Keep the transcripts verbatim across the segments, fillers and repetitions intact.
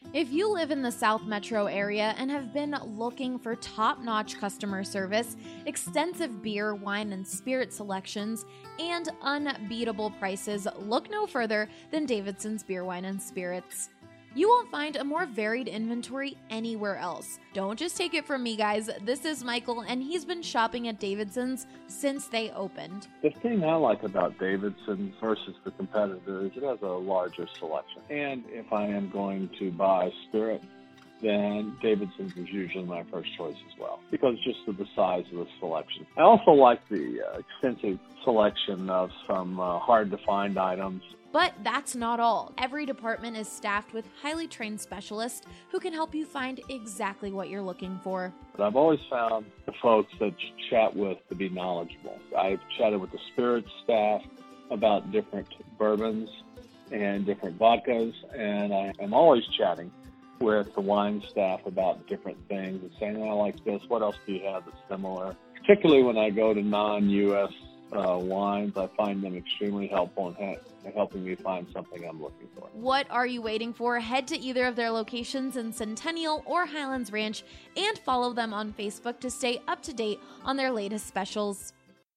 If you live in the South Metro area and have been looking for top-notch customer service, extensive beer, wine, and spirit selections, and unbeatable prices, look no further than Davidson's Beer, Wine, and Spirits. You won't find a more varied inventory anywhere else. Don't just take it from me, guys. This is Michael, and he's been shopping at Davidson's since they opened. The thing I like about Davidson's versus the competitor is it has a larger selection. And if I am going to buy spirit, then Davidson's is usually my first choice as well, because just of the size of the selection. I also like the uh, extensive selection of some uh, hard-to-find items. But that's not all. Every department is staffed with highly trained specialists who can help you find exactly what you're looking for. But I've always found the folks that you chat with to be knowledgeable. I've chatted with the spirits staff about different bourbons and different vodkas, and I am always chatting with the wine staff about different things and saying, I like this, what else do you have that's similar? Particularly when I go to non-U S uh, wines, I find them extremely helpful in ha- helping me find something I'm looking for. What are you waiting for? Head to either of their locations in Centennial or Highlands Ranch and follow them on Facebook to stay up to date on their latest specials.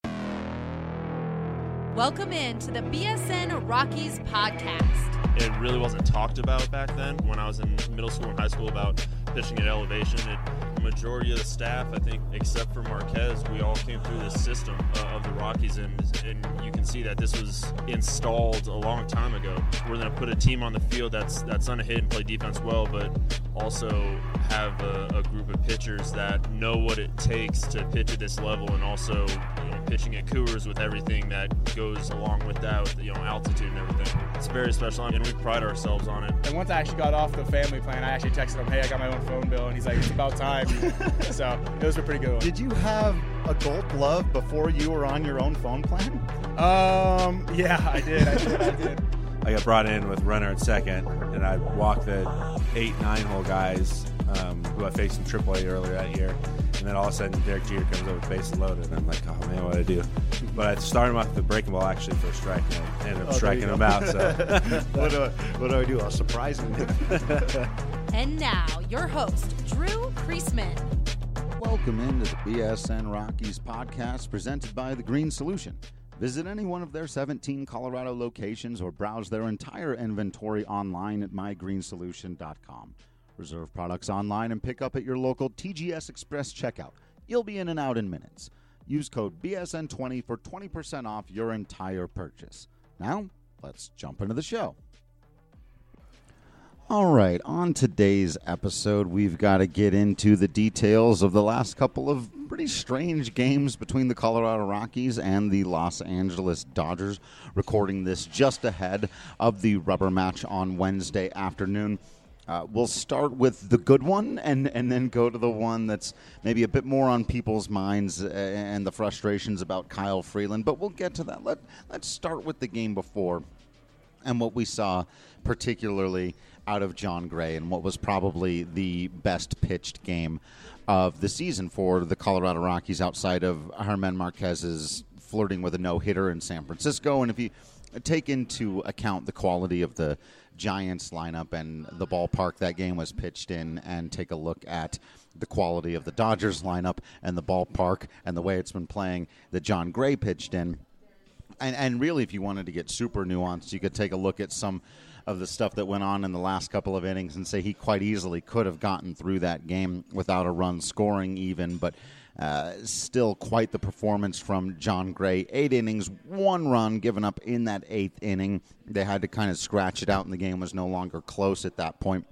Welcome in to the B S N Rockies podcast. It really wasn't talked about back then when I was in middle school and high school about pitching at elevation. It, the majority of the staff, I think, except for Marquez, we all came through this system uh, of the Rockies, and, and you can see that this was installed a long time ago. We're going to put a team on the field that's that's going to hit and play defense well, but also have a, a group of pitchers that know what it takes to pitch at this level, and also, you know, pitching at Coors with everything that goes along with that, with, you know, altitude and everything. It's very special, and we pride ourselves on it. And once I actually got off the family plan, I actually texted him, hey, I got my own phone bill, and he's like, it's about time. So it was a pretty good one. Did you have a Gold Glove before you were on your own phone plan? Um, yeah, I did, I did, I did. I got brought in with runner at second, and I walked the eight, nine-hole guys um, who I faced in triple A earlier that year. And then all of a sudden, Derek Jeter comes over with bases loaded, and I'm like, oh, man, what do I do? But I started him off with the breaking ball, actually, for a strike, and I ended up oh, striking him out. So what, do I, what do I do? I'll surprise him. And now, your host, Drew Creasman. Welcome into the B S N Rockies podcast presented by The Green Solution. Visit any one of their seventeen Colorado locations or browse their entire inventory online at my green solution dot com. Reserve products online and pick up at your local T G S Express checkout. You'll be in and out in minutes. Use code B S N twenty for twenty percent off your entire purchase. Now, let's jump into the show. All right, on today's episode, we've got to get into the details of the last couple of pretty strange games between the Colorado Rockies and the Los Angeles Dodgers, recording this just ahead of the rubber match on Wednesday afternoon. Uh, we'll start with the good one and, and then go to the one that's maybe a bit more on people's minds and the frustrations about Kyle Freeland, but we'll get to that. Let, let's start with the game before and what we saw particularly out of Jon Gray and what was probably the best pitched game of the season for the Colorado Rockies outside of Germán Marquez's flirting with a no-hitter in San Francisco. And if you take into account the quality of the Giants lineup and the ballpark that game was pitched in, and take a look at the quality of the Dodgers lineup and the ballpark and the way it's been playing that Jon Gray pitched in, and, and really if you wanted to get super nuanced, you could take a look at some of the stuff that went on in the last couple of innings and say he quite easily could have gotten through that game without a run scoring even, but uh, still quite the performance from Jon Gray. Eight innings, one run given up in that eighth inning. They had to kind of scratch it out, and the game was no longer close at that point.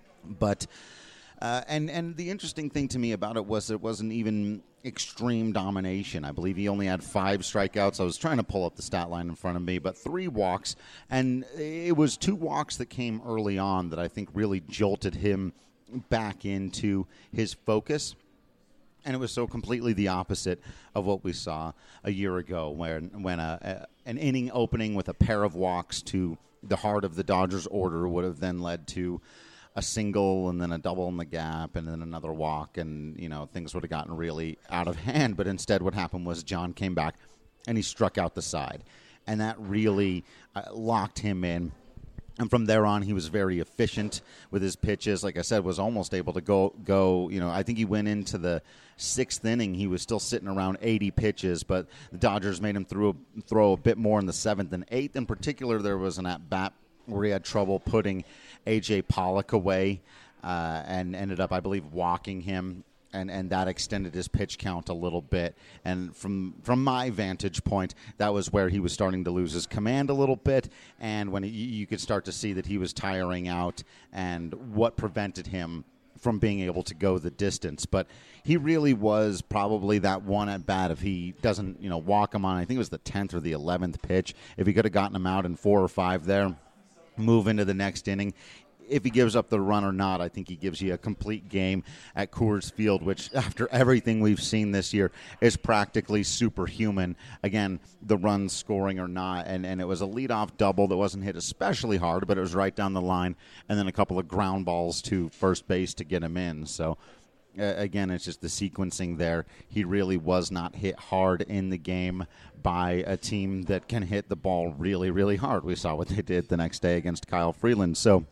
But uh, and and the interesting thing to me about it was it wasn't even extreme domination. I believe he only had five strikeouts. I was trying to pull up the stat line in front of me, but three walks. And it was two walks that came early on that I think really jolted him back into his focus. And it was so completely the opposite of what we saw a year ago when, when a, a, an inning opening with a pair of walks to the heart of the Dodgers order would have then led to a single and then a double in the gap and then another walk, and, you know, things would have gotten really out of hand. But instead what happened was Jon came back and he struck out the side. And that really uh, locked him in And from there on, he was very efficient with his pitches. Like I said, was almost able to go, go. You know, I think he went into the sixth inning. He was still sitting around eighty pitches, but the Dodgers made him throw, throw a bit more in the seventh and eighth. In particular, there was an at-bat where he had trouble putting A J Pollock away uh, and ended up, I believe, walking him. And, and that extended his pitch count a little bit. And from from my vantage point, that was where he was starting to lose his command a little bit. And when he, you could start to see that he was tiring out and what prevented him from being able to go the distance. But he really was probably that one at bat. If he doesn't, you know, walk him on, I think it was the tenth or the eleventh pitch, if he could have gotten him out in four or five there, move into the next inning. If he gives up the run or not, I think he gives you a complete game at Coors Field, which after everything we've seen this year is practically superhuman. Again, the runs scoring or not, and, and it was a leadoff double that wasn't hit especially hard, but it was right down the line, and then a couple of ground balls to first base to get him in. So, uh, again, it's just the sequencing there. He really was not hit hard in the game by a team that can hit the ball really, really hard. We saw what they did the next day against Kyle Freeland. So,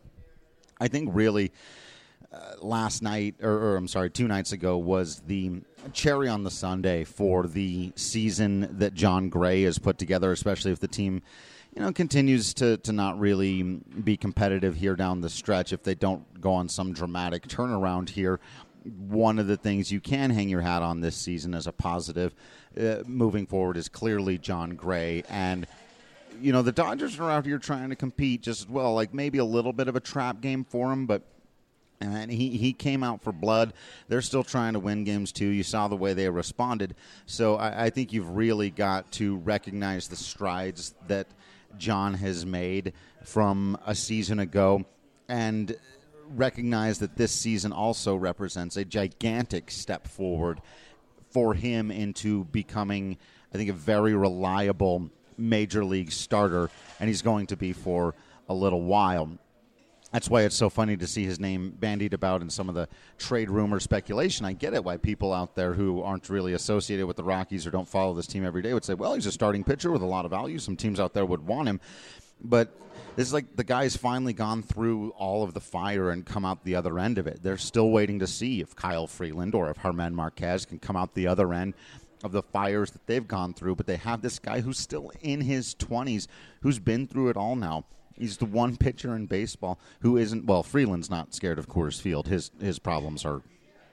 I think really uh, last night, or, or I'm sorry, two nights ago, was the cherry on the sundae for the season that Jon Gray has put together, especially if the team, you know, continues to, to not really be competitive here down the stretch. If they don't go on some dramatic turnaround here, one of the things you can hang your hat on this season as a positive uh, moving forward is clearly Jon Gray. And you know, the Dodgers are out here trying to compete just as well, like maybe a little bit of a trap game for him, but and he, he came out for blood. They're still trying to win games, too. You saw the way they responded. So I, I think you've really got to recognize the strides that Jon has made from a season ago and recognize that this season also represents a gigantic step forward for him into becoming, I think, a very reliable major league starter, and he's going to be for a little while. That's why it's so funny to see his name bandied about in some of the trade rumor speculation. I get it, why people out there who aren't really associated with the Rockies or don't follow this team every day would say, well, he's a starting pitcher with a lot of value. Some teams out there would want him. But this is like the guy's finally gone through all of the fire and come out the other end of it. They're still waiting to see if Kyle Freeland or if Germán Marquez can come out the other end of the fires that they've gone through, but they have this guy who's still in his twenties, who's been through it all now. He's the one pitcher in baseball who isn't, well, Freeland's not scared of Coors Field. His his problems are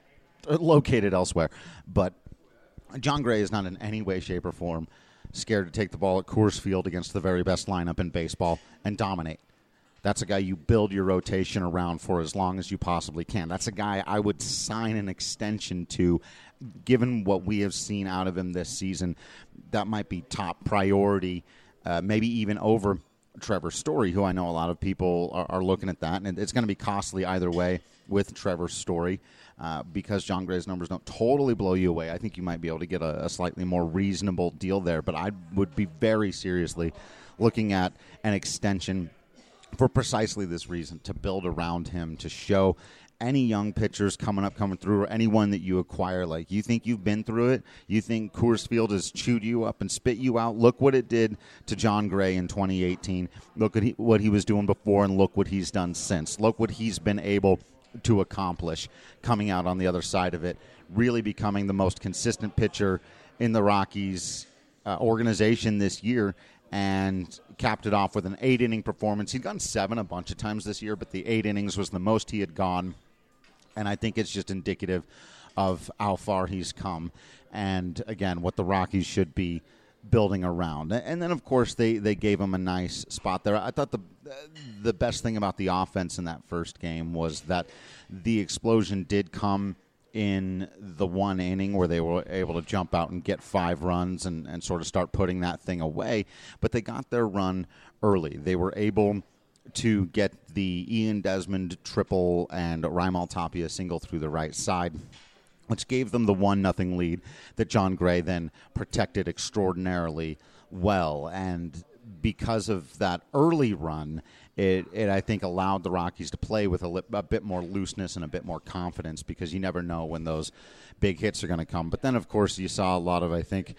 located elsewhere. But Jon Gray is not in any way, shape, or form scared to take the ball at Coors Field against the very best lineup in baseball and dominate. That's a guy you build your rotation around for as long as you possibly can. That's a guy I would sign an extension to, given what we have seen out of him this season. That might be top priority, uh, maybe even over Trevor Story, who I know a lot of people are, are looking at that. And it's going to be costly either way with Trevor Story uh, because Jon Gray's numbers don't totally blow you away. I think you might be able to get a, a slightly more reasonable deal there. But I would be very seriously looking at an extension for precisely this reason, to build around him, to show any young pitchers coming up, coming through, or anyone that you acquire, like, you think you've been through it, you think Coors Field has chewed you up and spit you out, look what it did to Jon Gray in twenty eighteen. Look at he, what he was doing before, and look what he's done since. Look what he's been able to accomplish coming out on the other side of it, really becoming the most consistent pitcher in the Rockies uh, organization this year, and capped it off with an eight-inning performance. He'd gone seven a bunch of times this year, but the eight innings was the most he had gone, and I think it's just indicative of how far he's come and, again, what the Rockies should be building around. And then, of course, they, they gave him a nice spot there. I thought the the best thing about the offense in that first game was that the explosion did come in the one inning where they were able to jump out and get five runs and, and sort of start putting that thing away. But they got their run early. They were able to get the Ian Desmond triple and Raimel Tapia single through the right side, which gave them the one nothing lead that Jon Gray then protected extraordinarily well. And because of that early run, it, it I think, allowed the Rockies to play with a, li- a bit more looseness and a bit more confidence, because you never know when those big hits are going to come. But then, of course, you saw a lot of, I think,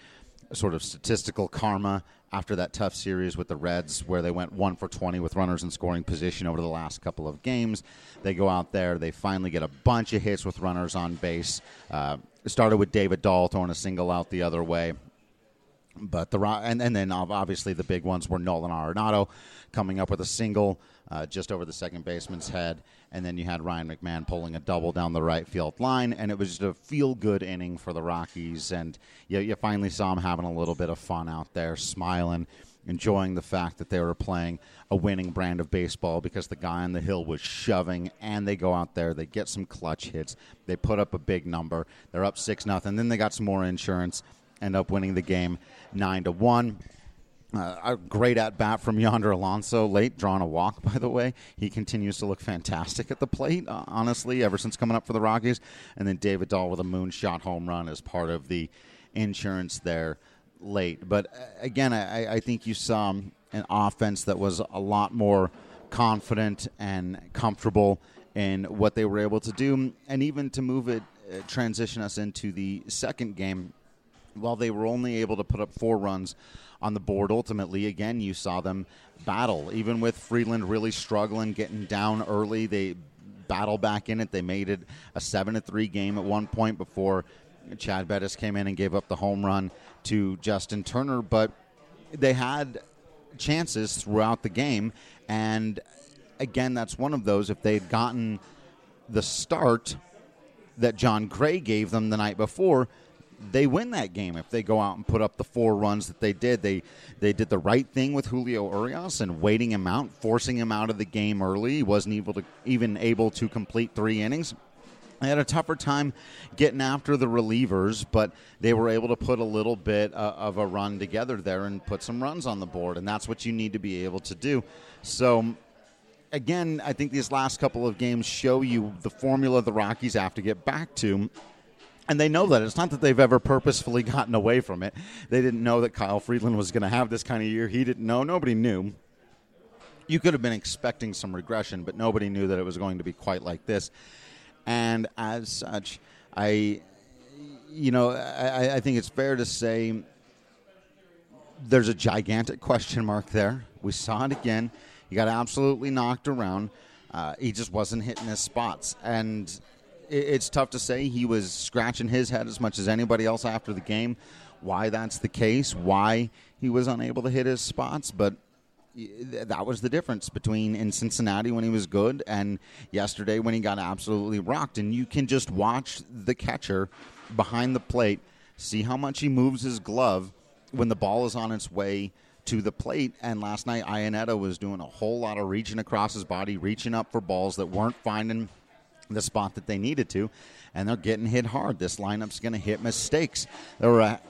sort of statistical karma after that tough series with the Reds where they went one for twenty with runners in scoring position over the last couple of games. They go out there. They finally get a bunch of hits with runners on base. Uh, it started with David Dahl throwing a single out the other way. But the and, and then obviously the big ones were Nolan Arenado coming up with a single uh, just over the second baseman's head, and then you had Ryan McMahon pulling a double down the right field line, and it was just a feel-good inning for the Rockies, and you, you finally saw them having a little bit of fun out there, smiling, enjoying the fact that they were playing a winning brand of baseball because the guy on the hill was shoving, and they go out there, they get some clutch hits, they put up a big number, they're up six nothing, then they got some more insurance, end up winning the game nine to one. Uh, a great at-bat from Yonder Alonso, late, drawing a walk, by the way. He continues to look fantastic at the plate, uh, honestly, ever since coming up for the Rockies. And then David Dahl with a moonshot home run as part of the insurance there late. But, uh, again, I, I think you saw an offense that was a lot more confident and comfortable in what they were able to do. And even to move it, uh, transition us into the second game, while they were only able to put up four runs on the board, ultimately, again, you saw them battle. Even with Freeland really struggling, getting down early, they battle back in it. They made it a seven to three game at one point before Chad Bettis came in and gave up the home run to Justin Turner. But they had chances throughout the game, and again, that's one of those. If they had gotten the start that John Gray gave them the night before, they win that game. If they go out and put up the four runs that they did, they they did the right thing with Julio Urias and waiting him out, forcing him out of the game early. He wasn't able to even able to complete three innings. They had a tougher time getting after the relievers, but they were able to put a little bit uh, of a run together there and put some runs on the board, and that's what you need to be able to do. So, again, I think these last couple of games show you the formula the Rockies have to get back to. And they know that. It's not that they've ever purposefully gotten away from it. They didn't know that Kyle Freeland was going to have this kind of year. He didn't know. Nobody knew. You could have been expecting some regression, but nobody knew that it was going to be quite like this. And as such, I, you know, I, I think it's fair to say there's a gigantic question mark there. We saw it again. He got absolutely knocked around. Uh, he just wasn't hitting his spots. And it's tough to say. He was scratching his head as much as anybody else after the game, why that's the case, why he was unable to hit his spots. But that was the difference between in Cincinnati when he was good and yesterday when he got absolutely rocked. And you can just watch the catcher behind the plate, see how much he moves his glove when the ball is on its way to the plate. And last night, Iannetta was doing a whole lot of reaching across his body, reaching up for balls that weren't finding the spot that they needed to, and they're getting hit hard. This lineup's going to hit mistakes. There were a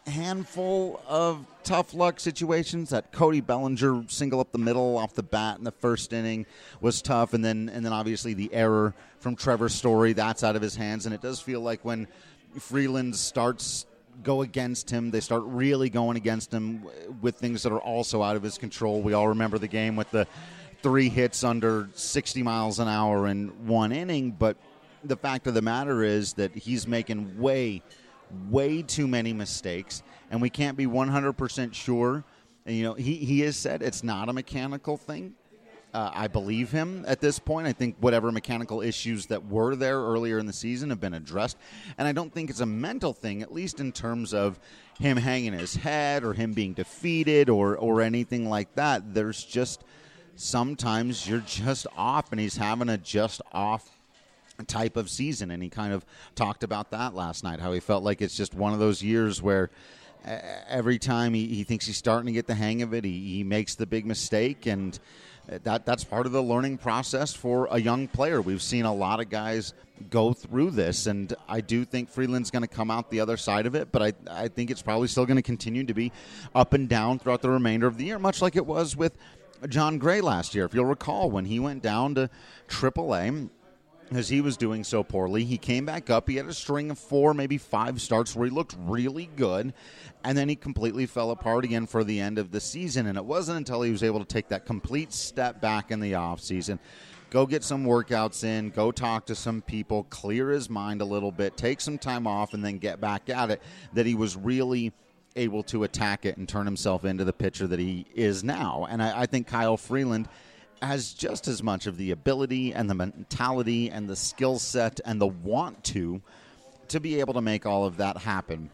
handful of tough luck situations. That Cody Bellinger single up the middle off the bat in the first inning was tough, and then and then obviously the error from Trevor Story, that's out of his hands. And it does feel like when Freeland starts go against him, they start really going against him with things that are also out of his control. We all remember the game with the three hits under sixty miles an hour in one inning, but the fact of the matter is that he's making way, way too many mistakes, and we can't be one hundred percent sure. And, you know, he, he has said it's not a mechanical thing. Uh, I believe him at this point. I think whatever mechanical issues that were there earlier in the season have been addressed, and I don't think it's a mental thing, at least in terms of him hanging his head or him being defeated or, or anything like that. There's just sometimes you're just off, and he's having a just off type of season, and he kind of talked about that last night, how he felt like it's just one of those years where uh, every time he, he thinks he's starting to get the hang of it, he, he makes the big mistake, and that that's part of the learning process for a young player. We've seen a lot of guys go through this, and I do think Freeland's going to come out the other side of it, but I, I think it's probably still going to continue to be up and down throughout the remainder of the year, much like it was with John Gray last year. If you'll recall, when he went down to triple A, as he was doing so poorly, he came back up. He had a string of four, maybe five starts where he looked really good, and then he completely fell apart again for the end of the season. And it wasn't until he was able to take that complete step back in the offseason, go get some workouts in, go talk to some people, clear his mind a little bit, take some time off, and then get back at it, that he was really able to attack it and turn himself into the pitcher that he is now. And I, I think Kyle Freeland has just as much of the ability and the mentality and the skill set and the want to to be able to make all of that happen.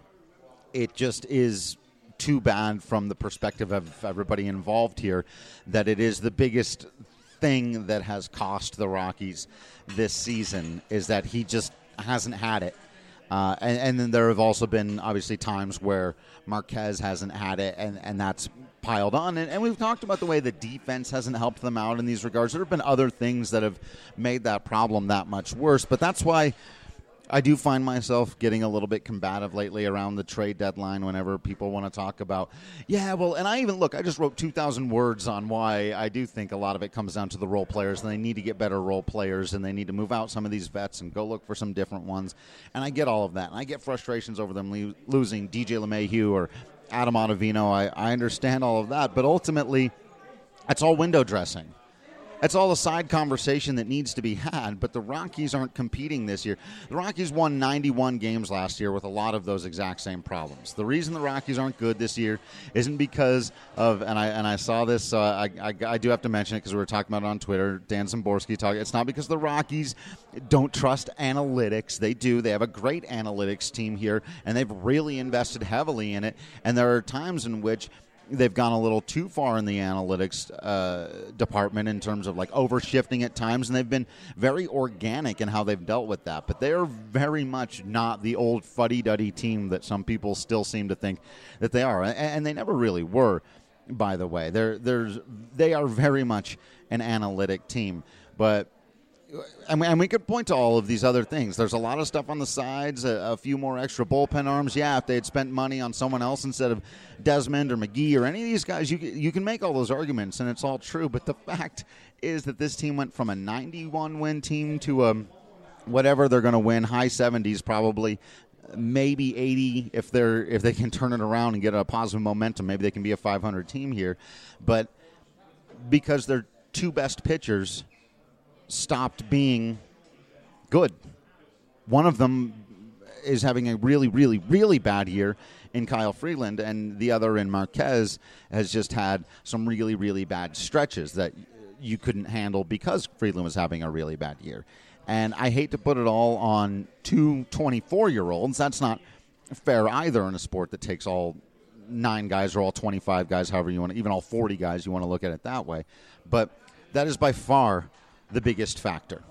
It just is too bad from the perspective of everybody involved here that it is the biggest thing that has cost the Rockies this season is that he just hasn't had it. Uh, and, and then there have also been, obviously, times where Marquez hasn't had it, and, and that's piled on. And, and we've talked about the way the defense hasn't helped them out in these regards. There have been other things that have made that problem that much worse. But that's why I do find myself getting a little bit combative lately around the trade deadline whenever people want to talk about, yeah, well, and I even, look, I just wrote two thousand words on why I do think a lot of it comes down to the role players, and they need to get better role players, and they need to move out some of these vets and go look for some different ones. And I get all of that. And I get frustrations over them lo- losing D J LeMahieu or Adam Ottavino. I, I understand all of that, but ultimately, it's all window dressing. It's all a side conversation that needs to be had, but the Rockies aren't competing this year. The Rockies won ninety-one games last year with a lot of those exact same problems. The reason the Rockies aren't good this year isn't because of, and I and I saw this, uh, I, I, I do have to mention it because we were talking about it on Twitter, Dan Szymborski talking, it's not because the Rockies don't trust analytics. They do. They have a great analytics team here, and they've really invested heavily in it, and there are times in which they've gone a little too far in the analytics uh, department in terms of like overshifting at times, and they've been very organic in how they've dealt with that. But they're very much not the old fuddy-duddy team that some people still seem to think that they are, and, and they never really were. By the way, they're there's they are very much an analytic team, but. And we, and we could point to all of these other things. There's a lot of stuff on the sides, a, a few more extra bullpen arms. Yeah, if they had spent money on someone else instead of Desmond or McGee or any of these guys, you you can make all those arguments, and it's all true. But the fact is that this team went from a ninety-one win team to a whatever they're going to win, high seventies probably, maybe eighty if they're if they can turn it around and get a positive momentum. Maybe they can be a five hundred team here. But because their two best pitchers stopped being good. One of them is having a really, really, really bad year in Kyle Freeland, and the other in Marquez has just had some really, really bad stretches that you couldn't handle because Freeland was having a really bad year. And I hate to put it all on two twenty-four-year-olds. That's not fair either in a sport that takes all nine guys or all twenty-five guys, however you want to, even all forty guys, you want to look at it that way. But that is by far the biggest factor.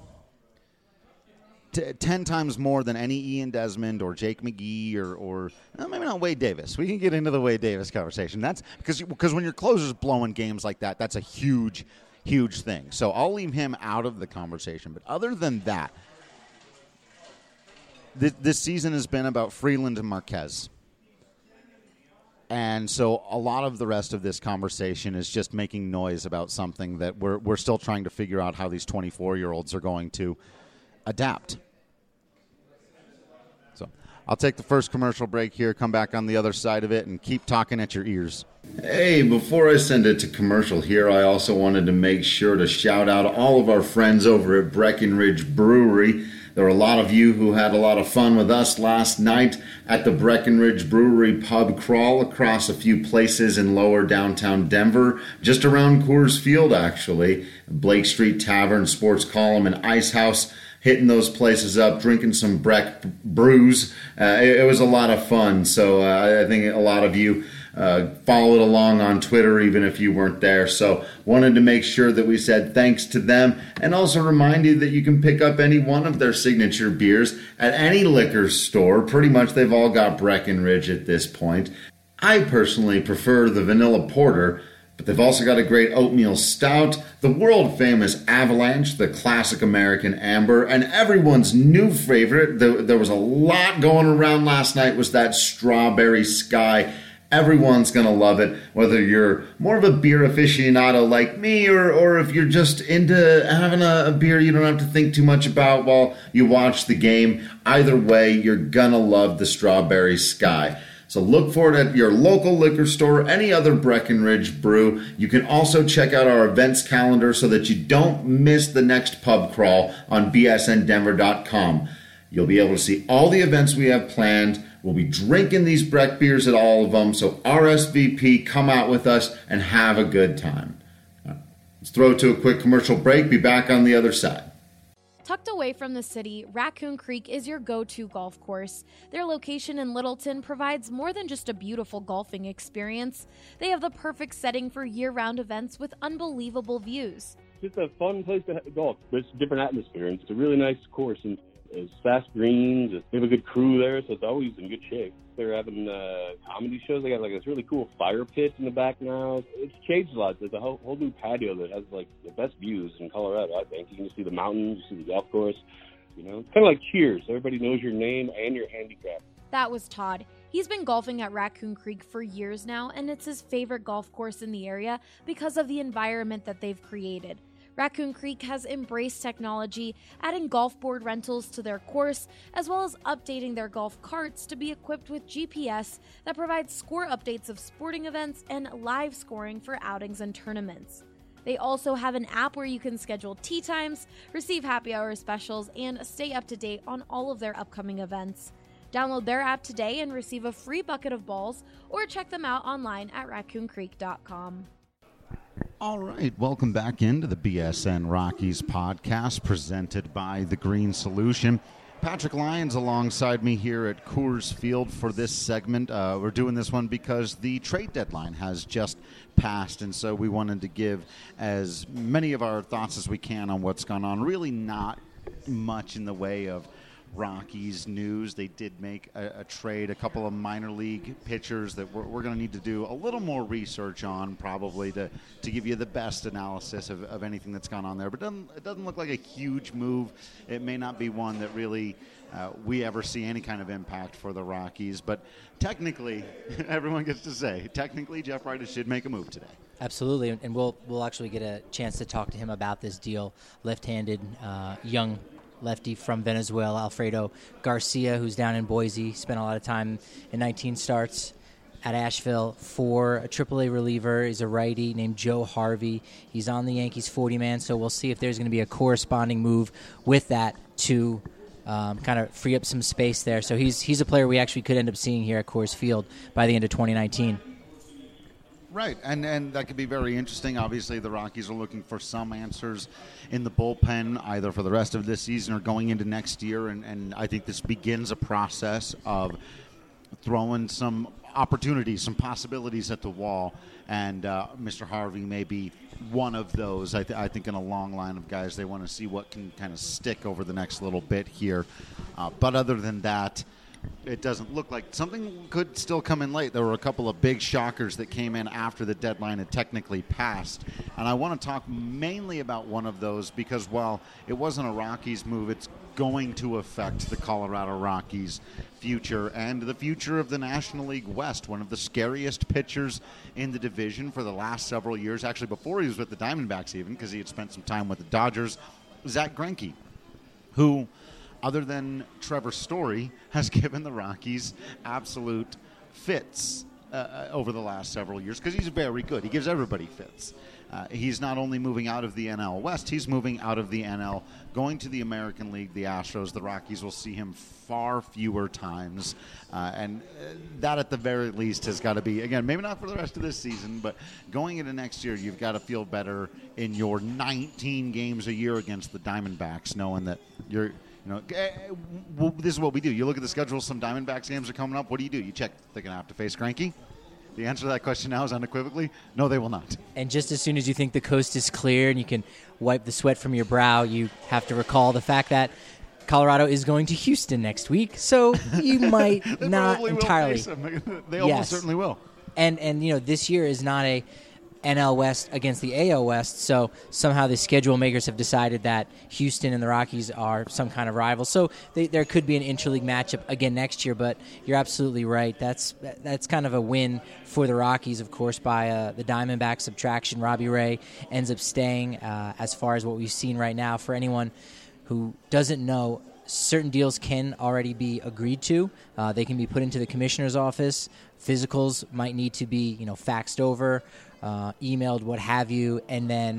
T- ten times more than any Ian Desmond or Jake McGee or, or well, maybe not Wade Davis. We can get into the Wade Davis conversation. That's because because when your closer's blowing games like that, that's a huge, huge thing. So I'll leave him out of the conversation. But other than that, th- this season has been about Freeland and Marquez. And so a lot of the rest of this conversation is just making noise about something that we're we're still trying to figure out how these twenty-four-year-olds are going to adapt. So I'll take the first commercial break here, come back on the other side of it, and keep talking at your ears. Hey, before I send it to commercial here, I also wanted to make sure to shout out all of our friends over at Breckenridge Brewery. There were a lot of you who had a lot of fun with us last night at the Breckenridge Brewery pub crawl across a few places in lower downtown Denver, just around Coors Field, actually. Blake Street Tavern, Sports Column, and Ice House, hitting those places up, drinking some Breck brews. Uh, it, it was a lot of fun, so uh, I think a lot of you Uh, followed along on Twitter even if you weren't there. So wanted to make sure that we said thanks to them, and also remind you that you can pick up any one of their signature beers at any liquor store. Pretty much they've all got Breckenridge at this point. I personally prefer the vanilla porter, but they've also got a great oatmeal stout, the world famous Avalanche, the classic American amber, and everyone's new favorite, there was a lot going around last night, was that Strawberry Sky. Everyone's going to love it, whether you're more of a beer aficionado like me or, or if you're just into having a, a beer you don't have to think too much about while you watch the game. Either way, you're going to love the Strawberry Sky. So look for it at your local liquor store, any other Breckenridge brew. You can also check out our events calendar so that you don't miss the next pub crawl on b s n denver dot com. You'll be able to see all the events we have planned, We'll be drinking these Breck beers at all of them, so R S V P, come out with us and have a good time. Let's throw it to a quick commercial break. Be back on the other side. Tucked away from the city, Raccoon Creek is your go-to golf course. Their location in Littleton provides more than just a beautiful golfing experience. They have the perfect setting for year-round events with unbelievable views. It's just a fun place to golf. It's a different atmosphere, and it's a really nice course, and it's fast greens. They have a good crew there, so it's always in good shape. They're having uh, comedy shows. They got like this really cool fire pit in the back now. It's changed a lot. There's a whole, whole new patio that has like the best views in Colorado, I think. You can see the mountains, you see the golf course. You know, it's kind of like Cheers. Everybody knows your name and your handicap. That was Todd. He's been golfing at Raccoon Creek for years now, and it's his favorite golf course in the area because of the environment that they've created. Raccoon Creek has embraced technology, adding golf board rentals to their course, as well as updating their golf carts to be equipped with G P S that provides score updates of sporting events and live scoring for outings and tournaments. They also have an app where you can schedule tee times, receive happy hour specials, and stay up to date on all of their upcoming events. Download their app today and receive a free bucket of balls, or check them out online at raccoon creek dot com. All right, welcome back into the B S N Rockies podcast presented by The Green Solution. Patrick Lyons alongside me here at Coors Field for this segment. Uh, we're doing this one because the trade deadline has just passed, and so we wanted to give as many of our thoughts as we can on what's gone on. Really not much in the way of Rockies news. They did make a, a trade, a couple of minor league pitchers that we're, we're going to need to do a little more research on probably to, to give you the best analysis of, of anything that's gone on there. But it doesn't, it doesn't look like a huge move. It may not be one that really uh, we ever see any kind of impact for the Rockies. But technically, everyone gets to say, technically Jeff Bridich should make a move today. Absolutely, and we'll we'll actually get a chance to talk to him about this deal. Left-handed, uh, young lefty from Venezuela, Alfredo Garcia, who's down in Boise, spent a lot of time in nineteen starts at Asheville for a triple A reliever. He's a righty named Joe Harvey. He's on the Yankees forty-man, so we'll see if there's going to be a corresponding move with that to um, kind of free up some space there. So he's he's a player we actually could end up seeing here at Coors Field by the end of twenty nineteen. Right, and, and that could be very interesting. Obviously, the Rockies are looking for some answers in the bullpen, either for the rest of this season or going into next year, and, and I think this begins a process of throwing some opportunities, some possibilities at the wall, and uh, Mister Harvey may be one of those. I, th- I think in a long line of guys, they want to see what can kind of stick over the next little bit here. Uh, but other than that, it doesn't look like something could still come in late. There were a couple of big shockers that came in after the deadline had technically passed. And I want to talk mainly about one of those because while it wasn't a Rockies move, it's going to affect the Colorado Rockies' future and the future of the National League West. One of the scariest pitchers in the division for the last several years, actually before he was with the Diamondbacks even, because he had spent some time with the Dodgers, Zach Greinke, who, other than Trevor Story, has given the Rockies absolute fits uh, over the last several years because he's very good. He gives everybody fits. Uh, he's not only moving out of the N L West, he's moving out of the N L, going to the American League, the Astros. The Rockies will see him far fewer times. Uh, and uh, that at the very least has got to be, again, maybe not for the rest of this season, but going into next year, you've got to feel better in your nineteen games a year against the Diamondbacks, knowing that you're – You know, well, this is what we do. You look at the schedule, some Diamondbacks games are coming up. What do you do? You check, they're going to have to face Greinke? The answer to that question now is unequivocally, no, they will not. And just as soon as you think the coast is clear and you can wipe the sweat from your brow, you have to recall the fact that Colorado is going to Houston next week, so you might they not entirely. Will face them. They almost yes. certainly will. And, and, you know, this year is not a N L West against the A L West, so somehow the schedule makers have decided that Houston and the Rockies are some kind of rival. So they, there could be an interleague matchup again next year, but you're absolutely right. That's that's kind of a win for the Rockies, of course, by uh, the Diamondback subtraction. Robbie Ray ends up staying uh, as far as what we've seen right now. For anyone who doesn't know, certain deals can already be agreed to. Uh, they can be put into the commissioner's office. Physicals might need to be, you know, faxed over, Uh, emailed, what have you, and then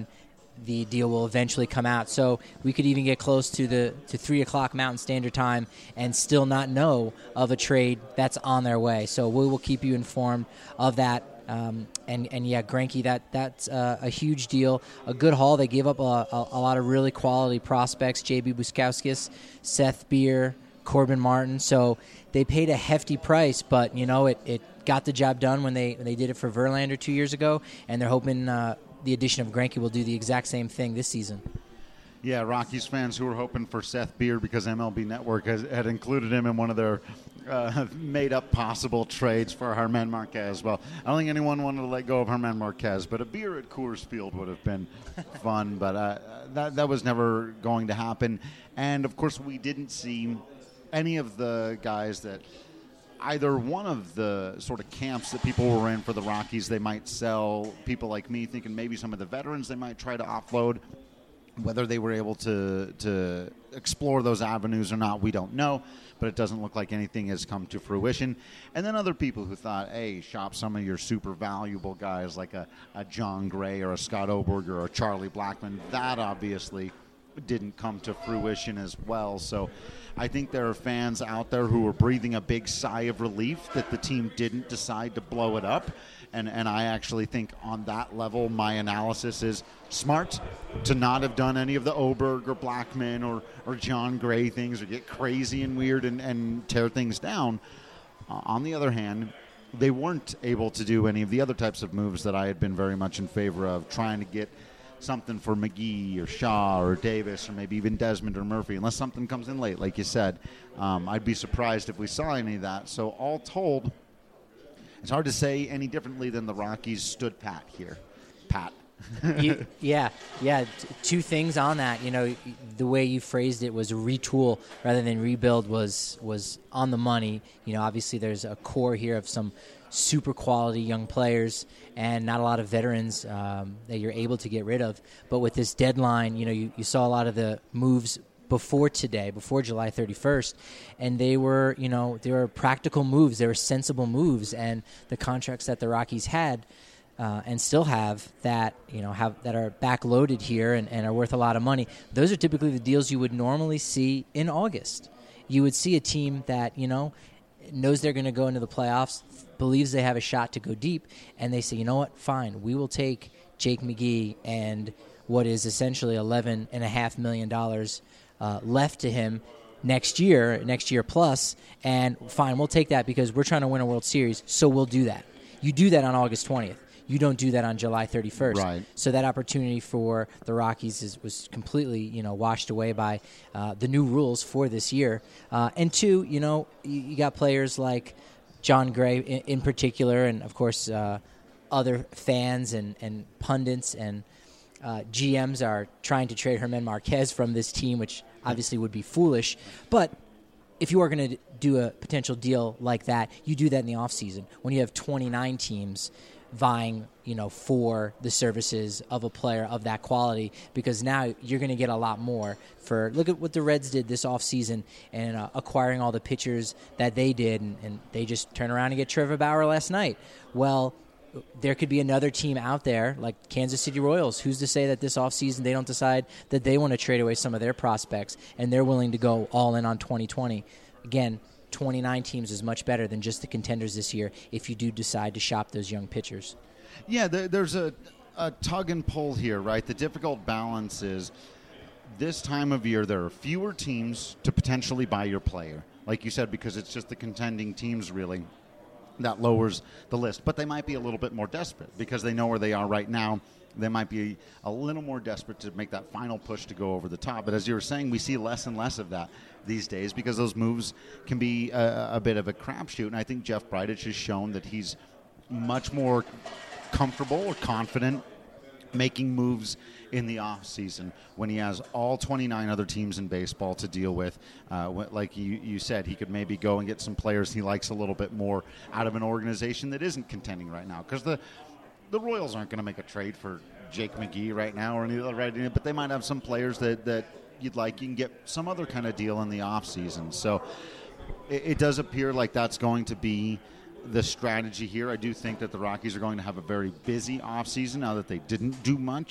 the deal will eventually come out. So we could even get close to the to three o'clock Mountain Standard Time and still not know of a trade that's on their way. So we will keep you informed of that. Um, and, and yeah, Greinke, that that's uh, a huge deal, a good haul. They gave up a, a, a lot of really quality prospects, J B Buskauskas, Seth Beer, Corbin Martin. So they paid a hefty price, but, you know, it, it got the job done when they when they did it for Verlander two years ago, and they're hoping uh, the addition of Greinke will do the exact same thing this season. Yeah, Rockies fans who were hoping for Seth Beer because M L B Network has, had included him in one of their uh, made-up possible trades for Germán Marquez. Well, I don't think anyone wanted to let go of Germán Marquez, but a beer at Coors Field would have been fun. But uh, that that was never going to happen. And, of course, we didn't see any of the guys that either one of the sort of camps that people were in for the Rockies they might sell. People like me thinking maybe some of the veterans they might try to offload. Whether they were able to to explore those avenues or not, we don't know, but it doesn't look like anything has come to fruition. And then other people who thought, hey, shop some of your super valuable guys like a, a John Gray or a Scott Oberger or a Charlie Blackmon. That obviously didn't come to fruition as well. So I think there are fans out there who are breathing a big sigh of relief that the team didn't decide to blow it up. And and I actually think on that level, my analysis is smart to not have done any of the Oberg or Blackmon or, or John Gray things or get crazy and weird and, and tear things down. Uh, on the other hand, they weren't able to do any of the other types of moves that I had been very much in favor of, trying to get something for McGee or Shaw or Davis or maybe even Desmond or Murphy, unless something comes in late, like you said. Um, I'd be surprised if we saw any of that. So all told, it's hard to say any differently than the Rockies stood pat here. Pat. you, yeah, yeah. T- two things on that. You know, the way you phrased it was retool rather than rebuild was was on the money. You know, obviously there's a core here of some super quality young players and not a lot of veterans um, that you're able to get rid of. But with this deadline, you know, you, you saw a lot of the moves before today, before July thirty-first, and they were, you know, they were practical moves, they were sensible moves, and the contracts that the Rockies had uh, and still have that, you know, have that are backloaded here and, and are worth a lot of money. Those are typically the deals you would normally see in August. You would see a team that, you know, knows they're going to go into the playoffs, believes they have a shot to go deep, and they say, you know what, fine, we will take Jake McGee and what is essentially eleven point five million dollars Uh, left to him next year, next year plus, and fine, we'll take that because we're trying to win a World Series, so we'll do that. You do that on August twentieth. You don't do that on July thirty-first. Right. So that opportunity for the Rockies is, was completely, you know, washed away by uh, the new rules for this year. Uh, and two, you know, you, you got players like John Gray in, in particular, and of course uh, other fans and, and pundits and uh, G Ms are trying to trade Germán Marquez from this team, which obviously would be foolish. But if you are going to do a potential deal like that, you do that in the offseason when you have twenty-nine teams vying, you know, for the services of a player of that quality, because now you're going to get a lot more for, look at what the Reds did this offseason and uh, acquiring all the pitchers that they did, and, and they just turn around and get Trevor Bauer last night. Well, there could be another team out there like Kansas City Royals. Who's to say that this offseason they don't decide that they want to trade away some of their prospects and they're willing to go all in on twenty twenty? Again, twenty-nine teams is much better than just the contenders this year if you do decide to shop those young pitchers. Yeah, there, there's a, a tug and pull here, right? The difficult balance is this time of year there are fewer teams to potentially buy your player, like you said, because it's just the contending teams really. That lowers the list. But they might be a little bit more desperate because they know where they are right now. They might be a little more desperate to make that final push to go over the top. But as you were saying, we see less and less of that these days because those moves can be a, a bit of a crapshoot. And I think Jeff Bridich has shown that he's much more comfortable or confident making moves in the offseason when he has all twenty-nine other teams in baseball to deal with. Uh, like you, you said, he could maybe go and get some players he likes a little bit more out of an organization that isn't contending right now. Because the, the Royals aren't going to make a trade for Jake McGee right now, or any other, right, but they might have some players that, that you'd like. You can get some other kind of deal in the offseason. So it, it does appear like that's going to be the strategy here. I do think that the Rockies are going to have a very busy offseason now that they didn't do much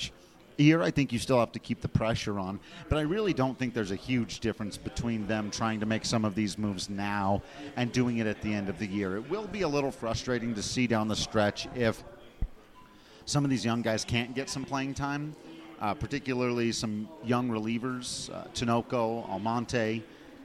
year, I think you still have to keep the pressure on. But I really don't think there's a huge difference between them trying to make some of these moves now and doing it at the end of the year. It will be a little frustrating to see down the stretch if some of these young guys can't get some playing time, uh, particularly some young relievers, uh, Tinoco, Almonte,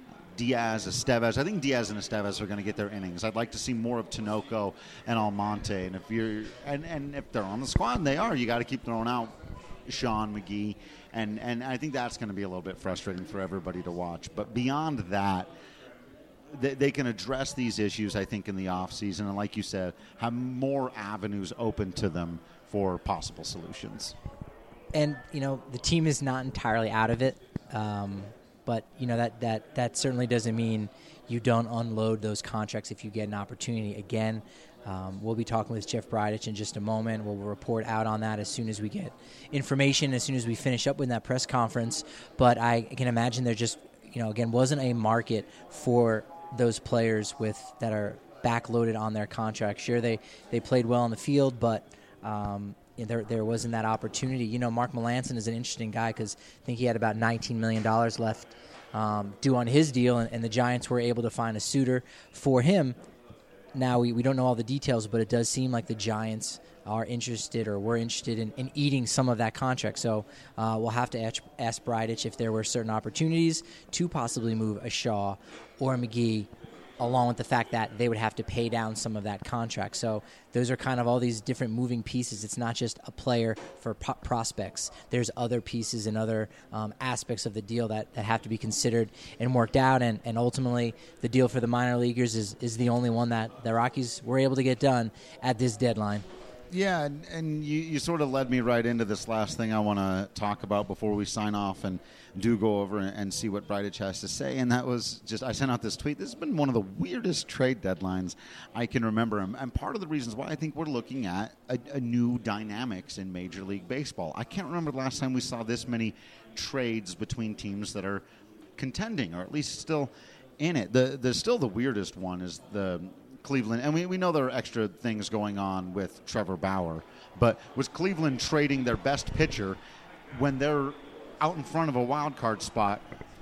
Diaz, Estevez. I think Diaz and Estevez are going to get their innings. I'd like to see more of Tinoco and Almonte. And if you're and, and if they're on the squad, and they are, you got to keep throwing out Sean McGee. And, and I think that's going to be a little bit frustrating for everybody to watch. But beyond that, they, they can address these issues, I think, in the offseason. And like you said, have more avenues open to them for possible solutions. And, you know, the team is not entirely out of it. Um, but, you know, that, that, that certainly doesn't mean you don't unload those contracts if you get an opportunity. Again, um, we'll be talking with Jeff Bridich in just a moment. We'll report out on that as soon as we get information, as soon as we finish up with that press conference. But I can imagine there just, you know, again, wasn't a market for those players with that are backloaded on their contracts. Sure, they, they played well on the field, but um, there there wasn't that opportunity. You know, Mark Melancon is an interesting guy because I think he had about nineteen million dollars left um, due on his deal, and, and the Giants were able to find a suitor for him. Now, we, we don't know all the details, but it does seem like the Giants are interested or were interested in, in eating some of that contract. So uh, we'll have to ask, ask Bridich if there were certain opportunities to possibly move a Shaw or a McGee, along with the fact that they would have to pay down some of that contract. So those are kind of all these different moving pieces. It's not just a player for pro- prospects. There's other pieces and other um, aspects of the deal that, that have to be considered and worked out. And, and ultimately, the deal for the minor leaguers is, is the only one that the Rockies were able to get done at this deadline. Yeah, and, and you, you sort of led me right into this last thing I want to talk about before we sign off and do go over and, and see what Bridich has to say. And that was just, I sent out this tweet. This has been one of the weirdest trade deadlines I can remember. And, and part of the reasons why I think we're looking at a, a new dynamics in Major League Baseball. I can't remember the last time we saw this many trades between teams that are contending, or at least still in it. The, the still the weirdest one is the Cleveland, and we, we know there are extra things going on with Trevor Bauer, but was Cleveland trading their best pitcher when they're out in front of a wild card spot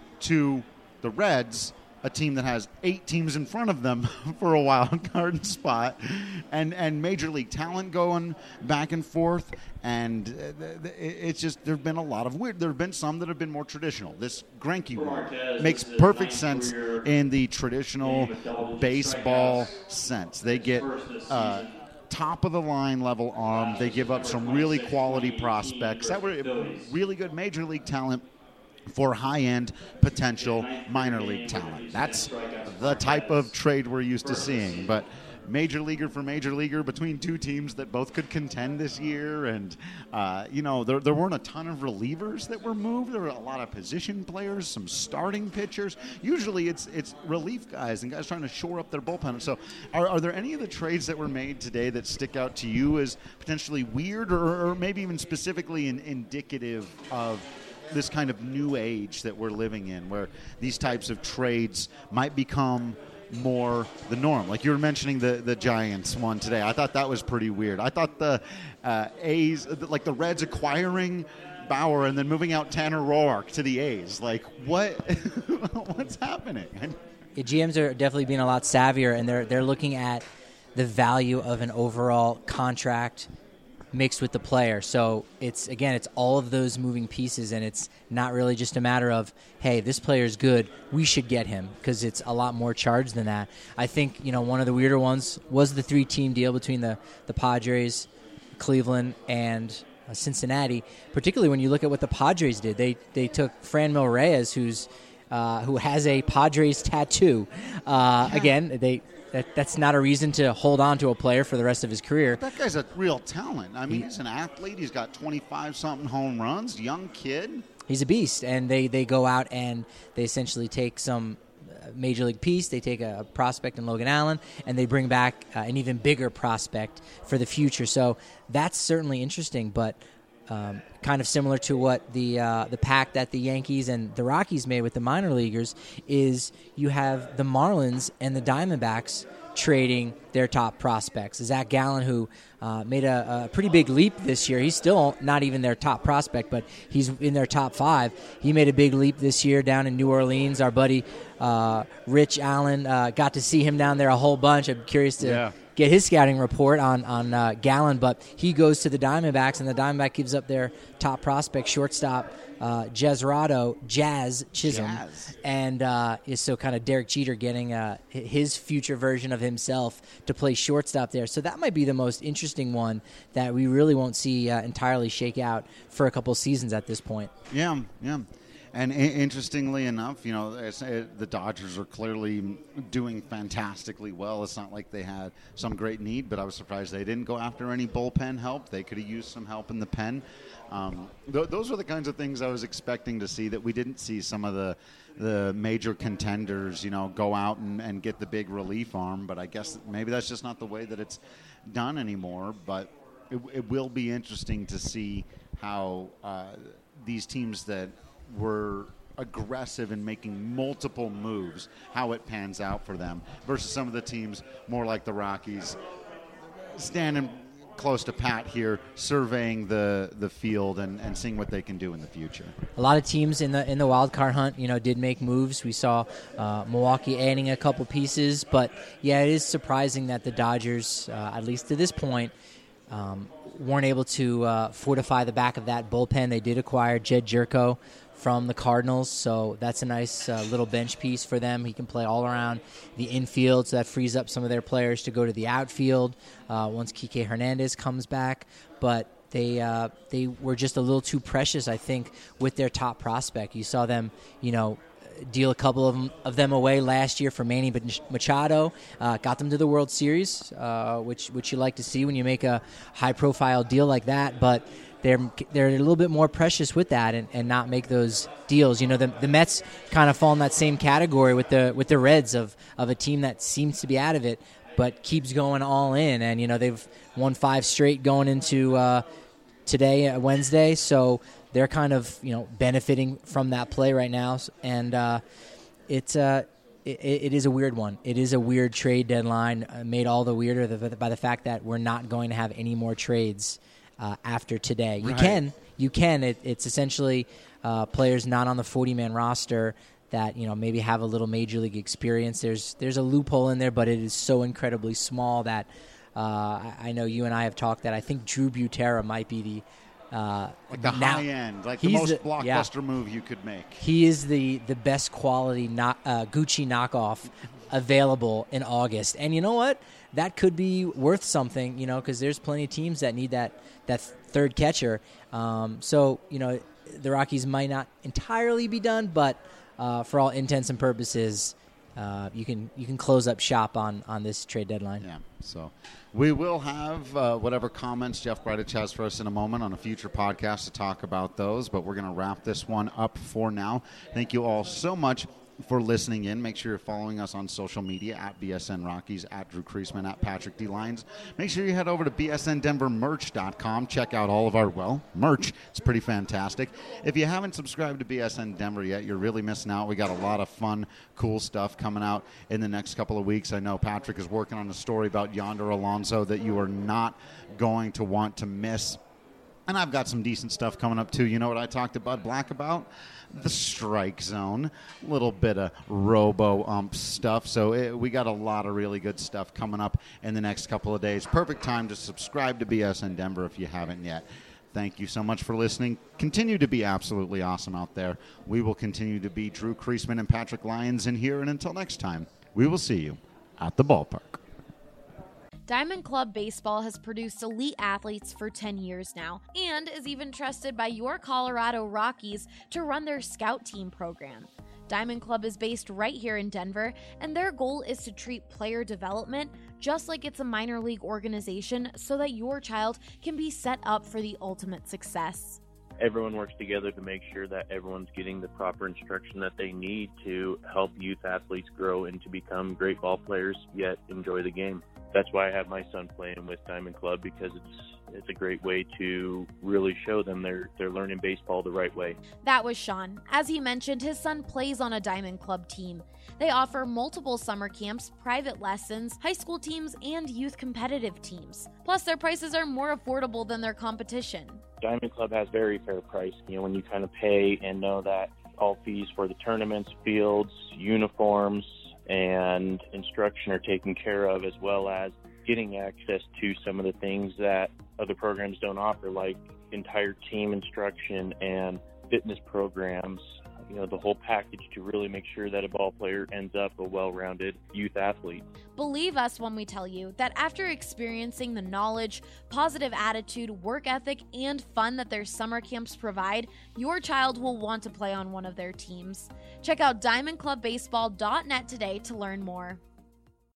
to the Reds, a team that has eight teams in front of them for a wild card spot, and, and Major League talent going back and forth, and it's just, there have been a lot of weird, there have been some that have been more traditional. This Greinke one makes perfect sense in the traditional baseball sense. They get uh, top-of-the-line level arm. They give up some really quality prospects that were really good Major League talent for high-end potential minor league talent. That's the type of trade we're used to seeing. But major leaguer for major leaguer between two teams that both could contend this year. And, uh, you know, there, there weren't a ton of relievers that were moved. There were a lot of position players, some starting pitchers. Usually it's it's relief guys and guys trying to shore up their bullpen. So are, are there any of the trades that were made today that stick out to you as potentially weird or, or maybe even specifically in, indicative of this kind of new age that we're living in, where these types of trades might become more the norm? Like you were mentioning the, the Giants one today. I thought that was pretty weird. I thought the uh, A's, like the Reds acquiring Bauer and then moving out Tanner Roark to the A's. Like, what? What's happening? Yeah, G Ms are definitely being a lot savvier, and they're they're looking at the value of an overall contract mixed with the player. So it's, again, it's all of those moving pieces, and it's not really just a matter of, hey, this player is good, we should get him, because it's a lot more charged than that. I think, you know, one of the weirder ones was the three-team deal between the, the Padres, Cleveland, and uh, Cincinnati, particularly when you look at what the Padres did. They they took Franmil Reyes, who's uh, who has a Padres tattoo. Uh, yeah. Again, they... That, that's not a reason to hold on to a player for the rest of his career. That guy's a real talent. I mean, he, he's an athlete. He's got twenty-five-something home runs, young kid. He's a beast, and they, they go out and they essentially take some major league piece. They take a prospect in Logan Allen, and they bring back uh, an even bigger prospect for the future. So that's certainly interesting, but um, kind of similar to what the uh, the pact that the Yankees and the Rockies made with the minor leaguers, is you have the Marlins and the Diamondbacks trading their top prospects. Zach Gallen, who uh, made a, a pretty big leap this year. He's still not even their top prospect, but he's in their top five. He made a big leap this year down in New Orleans. Our buddy uh, Rich Allen, uh, got to see him down there a whole bunch. I'm curious to yeah. get his scouting report on, on uh, Gallen, but he goes to the Diamondbacks, and the Diamondback gives up their top prospect, shortstop, Uh, Jazz Jazz Chisholm, Jazz. and uh, is so kind of Derek Jeter getting uh, his future version of himself to play shortstop there. So that might be the most interesting one that we really won't see uh, entirely shake out for a couple seasons at this point. Yeah, yeah. And I- interestingly enough, you know, it's, it, the Dodgers are clearly doing fantastically well. It's not like they had some great need, but I was surprised they didn't go after any bullpen help. They could have used some help in the pen. Um, th- those are the kinds of things I was expecting to see that we didn't see some of the the major contenders, you know, go out and, and get the big relief arm. But I guess maybe that's just not the way that it's done anymore. But it, it will be interesting to see how uh, these teams that were aggressive in making multiple moves, how it pans out for them versus some of the teams more like the Rockies standing close to Pat here, surveying the, the field and, and seeing what they can do in the future. A lot of teams in the in the wild card hunt, you know, did make moves. We saw uh, Milwaukee adding a couple pieces, but yeah, it is surprising that the Dodgers, uh, at least to this point, um, weren't able to uh, fortify the back of that bullpen. They did acquire Jed Jerko from the Cardinals, so that's a nice uh, little bench piece for them. He can play all around the infield, so that frees up some of their players to go to the outfield uh, once Kike Hernandez comes back. But they uh, they were just a little too precious, I think, with their top prospect. You saw them, you know, deal a couple of them, of them away last year for Manny Machado, uh, got them to the World Series, uh, which which you like to see when you make a high-profile deal like that, but they're they're a little bit more precious with that and, and not make those deals. You know, the the Mets kind of fall in that same category with the with the Reds of, of a team that seems to be out of it but keeps going all in, and you know they've won five straight going into uh, today, uh, Wednesday, so they're kind of, you know, benefiting from that play right now, and uh, it's uh, it, it is a weird one. It is a weird trade deadline, uh, made all the weirder by the fact that we're not going to have any more trades uh, after today. You right. can, you can. It, it's essentially uh, players not on the forty-man roster that, you know, maybe have a little major league experience. There's there's a loophole in there, but it is so incredibly small that uh, I, I know you and I have talked that I think Drew Butera might be the Uh, like the now, high end, like the most the, blockbuster yeah. move you could make. He is the, the best quality not, uh, Gucci knockoff available in August. And you know what? That could be worth something, you know, because there's plenty of teams that need that, that third catcher. Um, so, you know, the Rockies might not entirely be done, but uh, for all intents and purposes, uh, you can you can close up shop on, on this trade deadline. Yeah, so we will have uh, whatever comments Jeff Bridich has for us in a moment on a future podcast to talk about those, but we're going to wrap this one up for now. Thank you all so much for listening in. Make sure you're following us on social media at B S N Rockies, at Drew Creasman, at Patrick D. Lyons. Make sure you head over to B S N Denver Merch dot com. Check out all of our, well, merch. It's pretty fantastic. If you haven't subscribed to B S N Denver yet, you're really missing out. We got a lot of fun, cool stuff coming out in the next couple of weeks. I know Patrick is working on a story about Yonder Alonso that you are not going to want to miss. And I've got some decent stuff coming up, too. You know what I talked to Bud Black about? The strike zone, a little bit of robo-ump stuff. So it, we got a lot of really good stuff coming up in the next couple of days. Perfect time to subscribe to B S N Denver if you haven't yet. Thank you so much for listening. Continue to be absolutely awesome out there. We will continue to be Drew Creasman and Patrick Lyons in here. And until next time, we will see you at the ballpark. Diamond Club Baseball has produced elite athletes for ten years now and is even trusted by your Colorado Rockies to run their scout team program. Diamond Club is based right here in Denver, and their goal is to treat player development just like it's a minor league organization so that your child can be set up for the ultimate success. Everyone works together to make sure that everyone's getting the proper instruction that they need to help youth athletes grow and to become great ball players, yet enjoy the game. That's why I have my son playing with Diamond Club, because it's it's a great way to really show them they're they're learning baseball the right way. That was Sean. As he mentioned, his son plays on a Diamond Club team. They offer multiple summer camps, private lessons, high school teams, and youth competitive teams. Plus, their prices are more affordable than their competition. Diamond Club has very fair price. You know, when you kind of pay and know that all fees for the tournaments, fields, uniforms, and instruction are taken care of, as well as getting access to some of the things that other programs don't offer, like entire team instruction and fitness programs, you know, the whole package to really make sure that a ball player ends up a well-rounded youth athlete. Believe us when we tell you that after experiencing the knowledge, positive attitude, work ethic, and fun that their summer camps provide, your child will want to play on one of their teams. Check out diamond club baseball dot net today to learn more.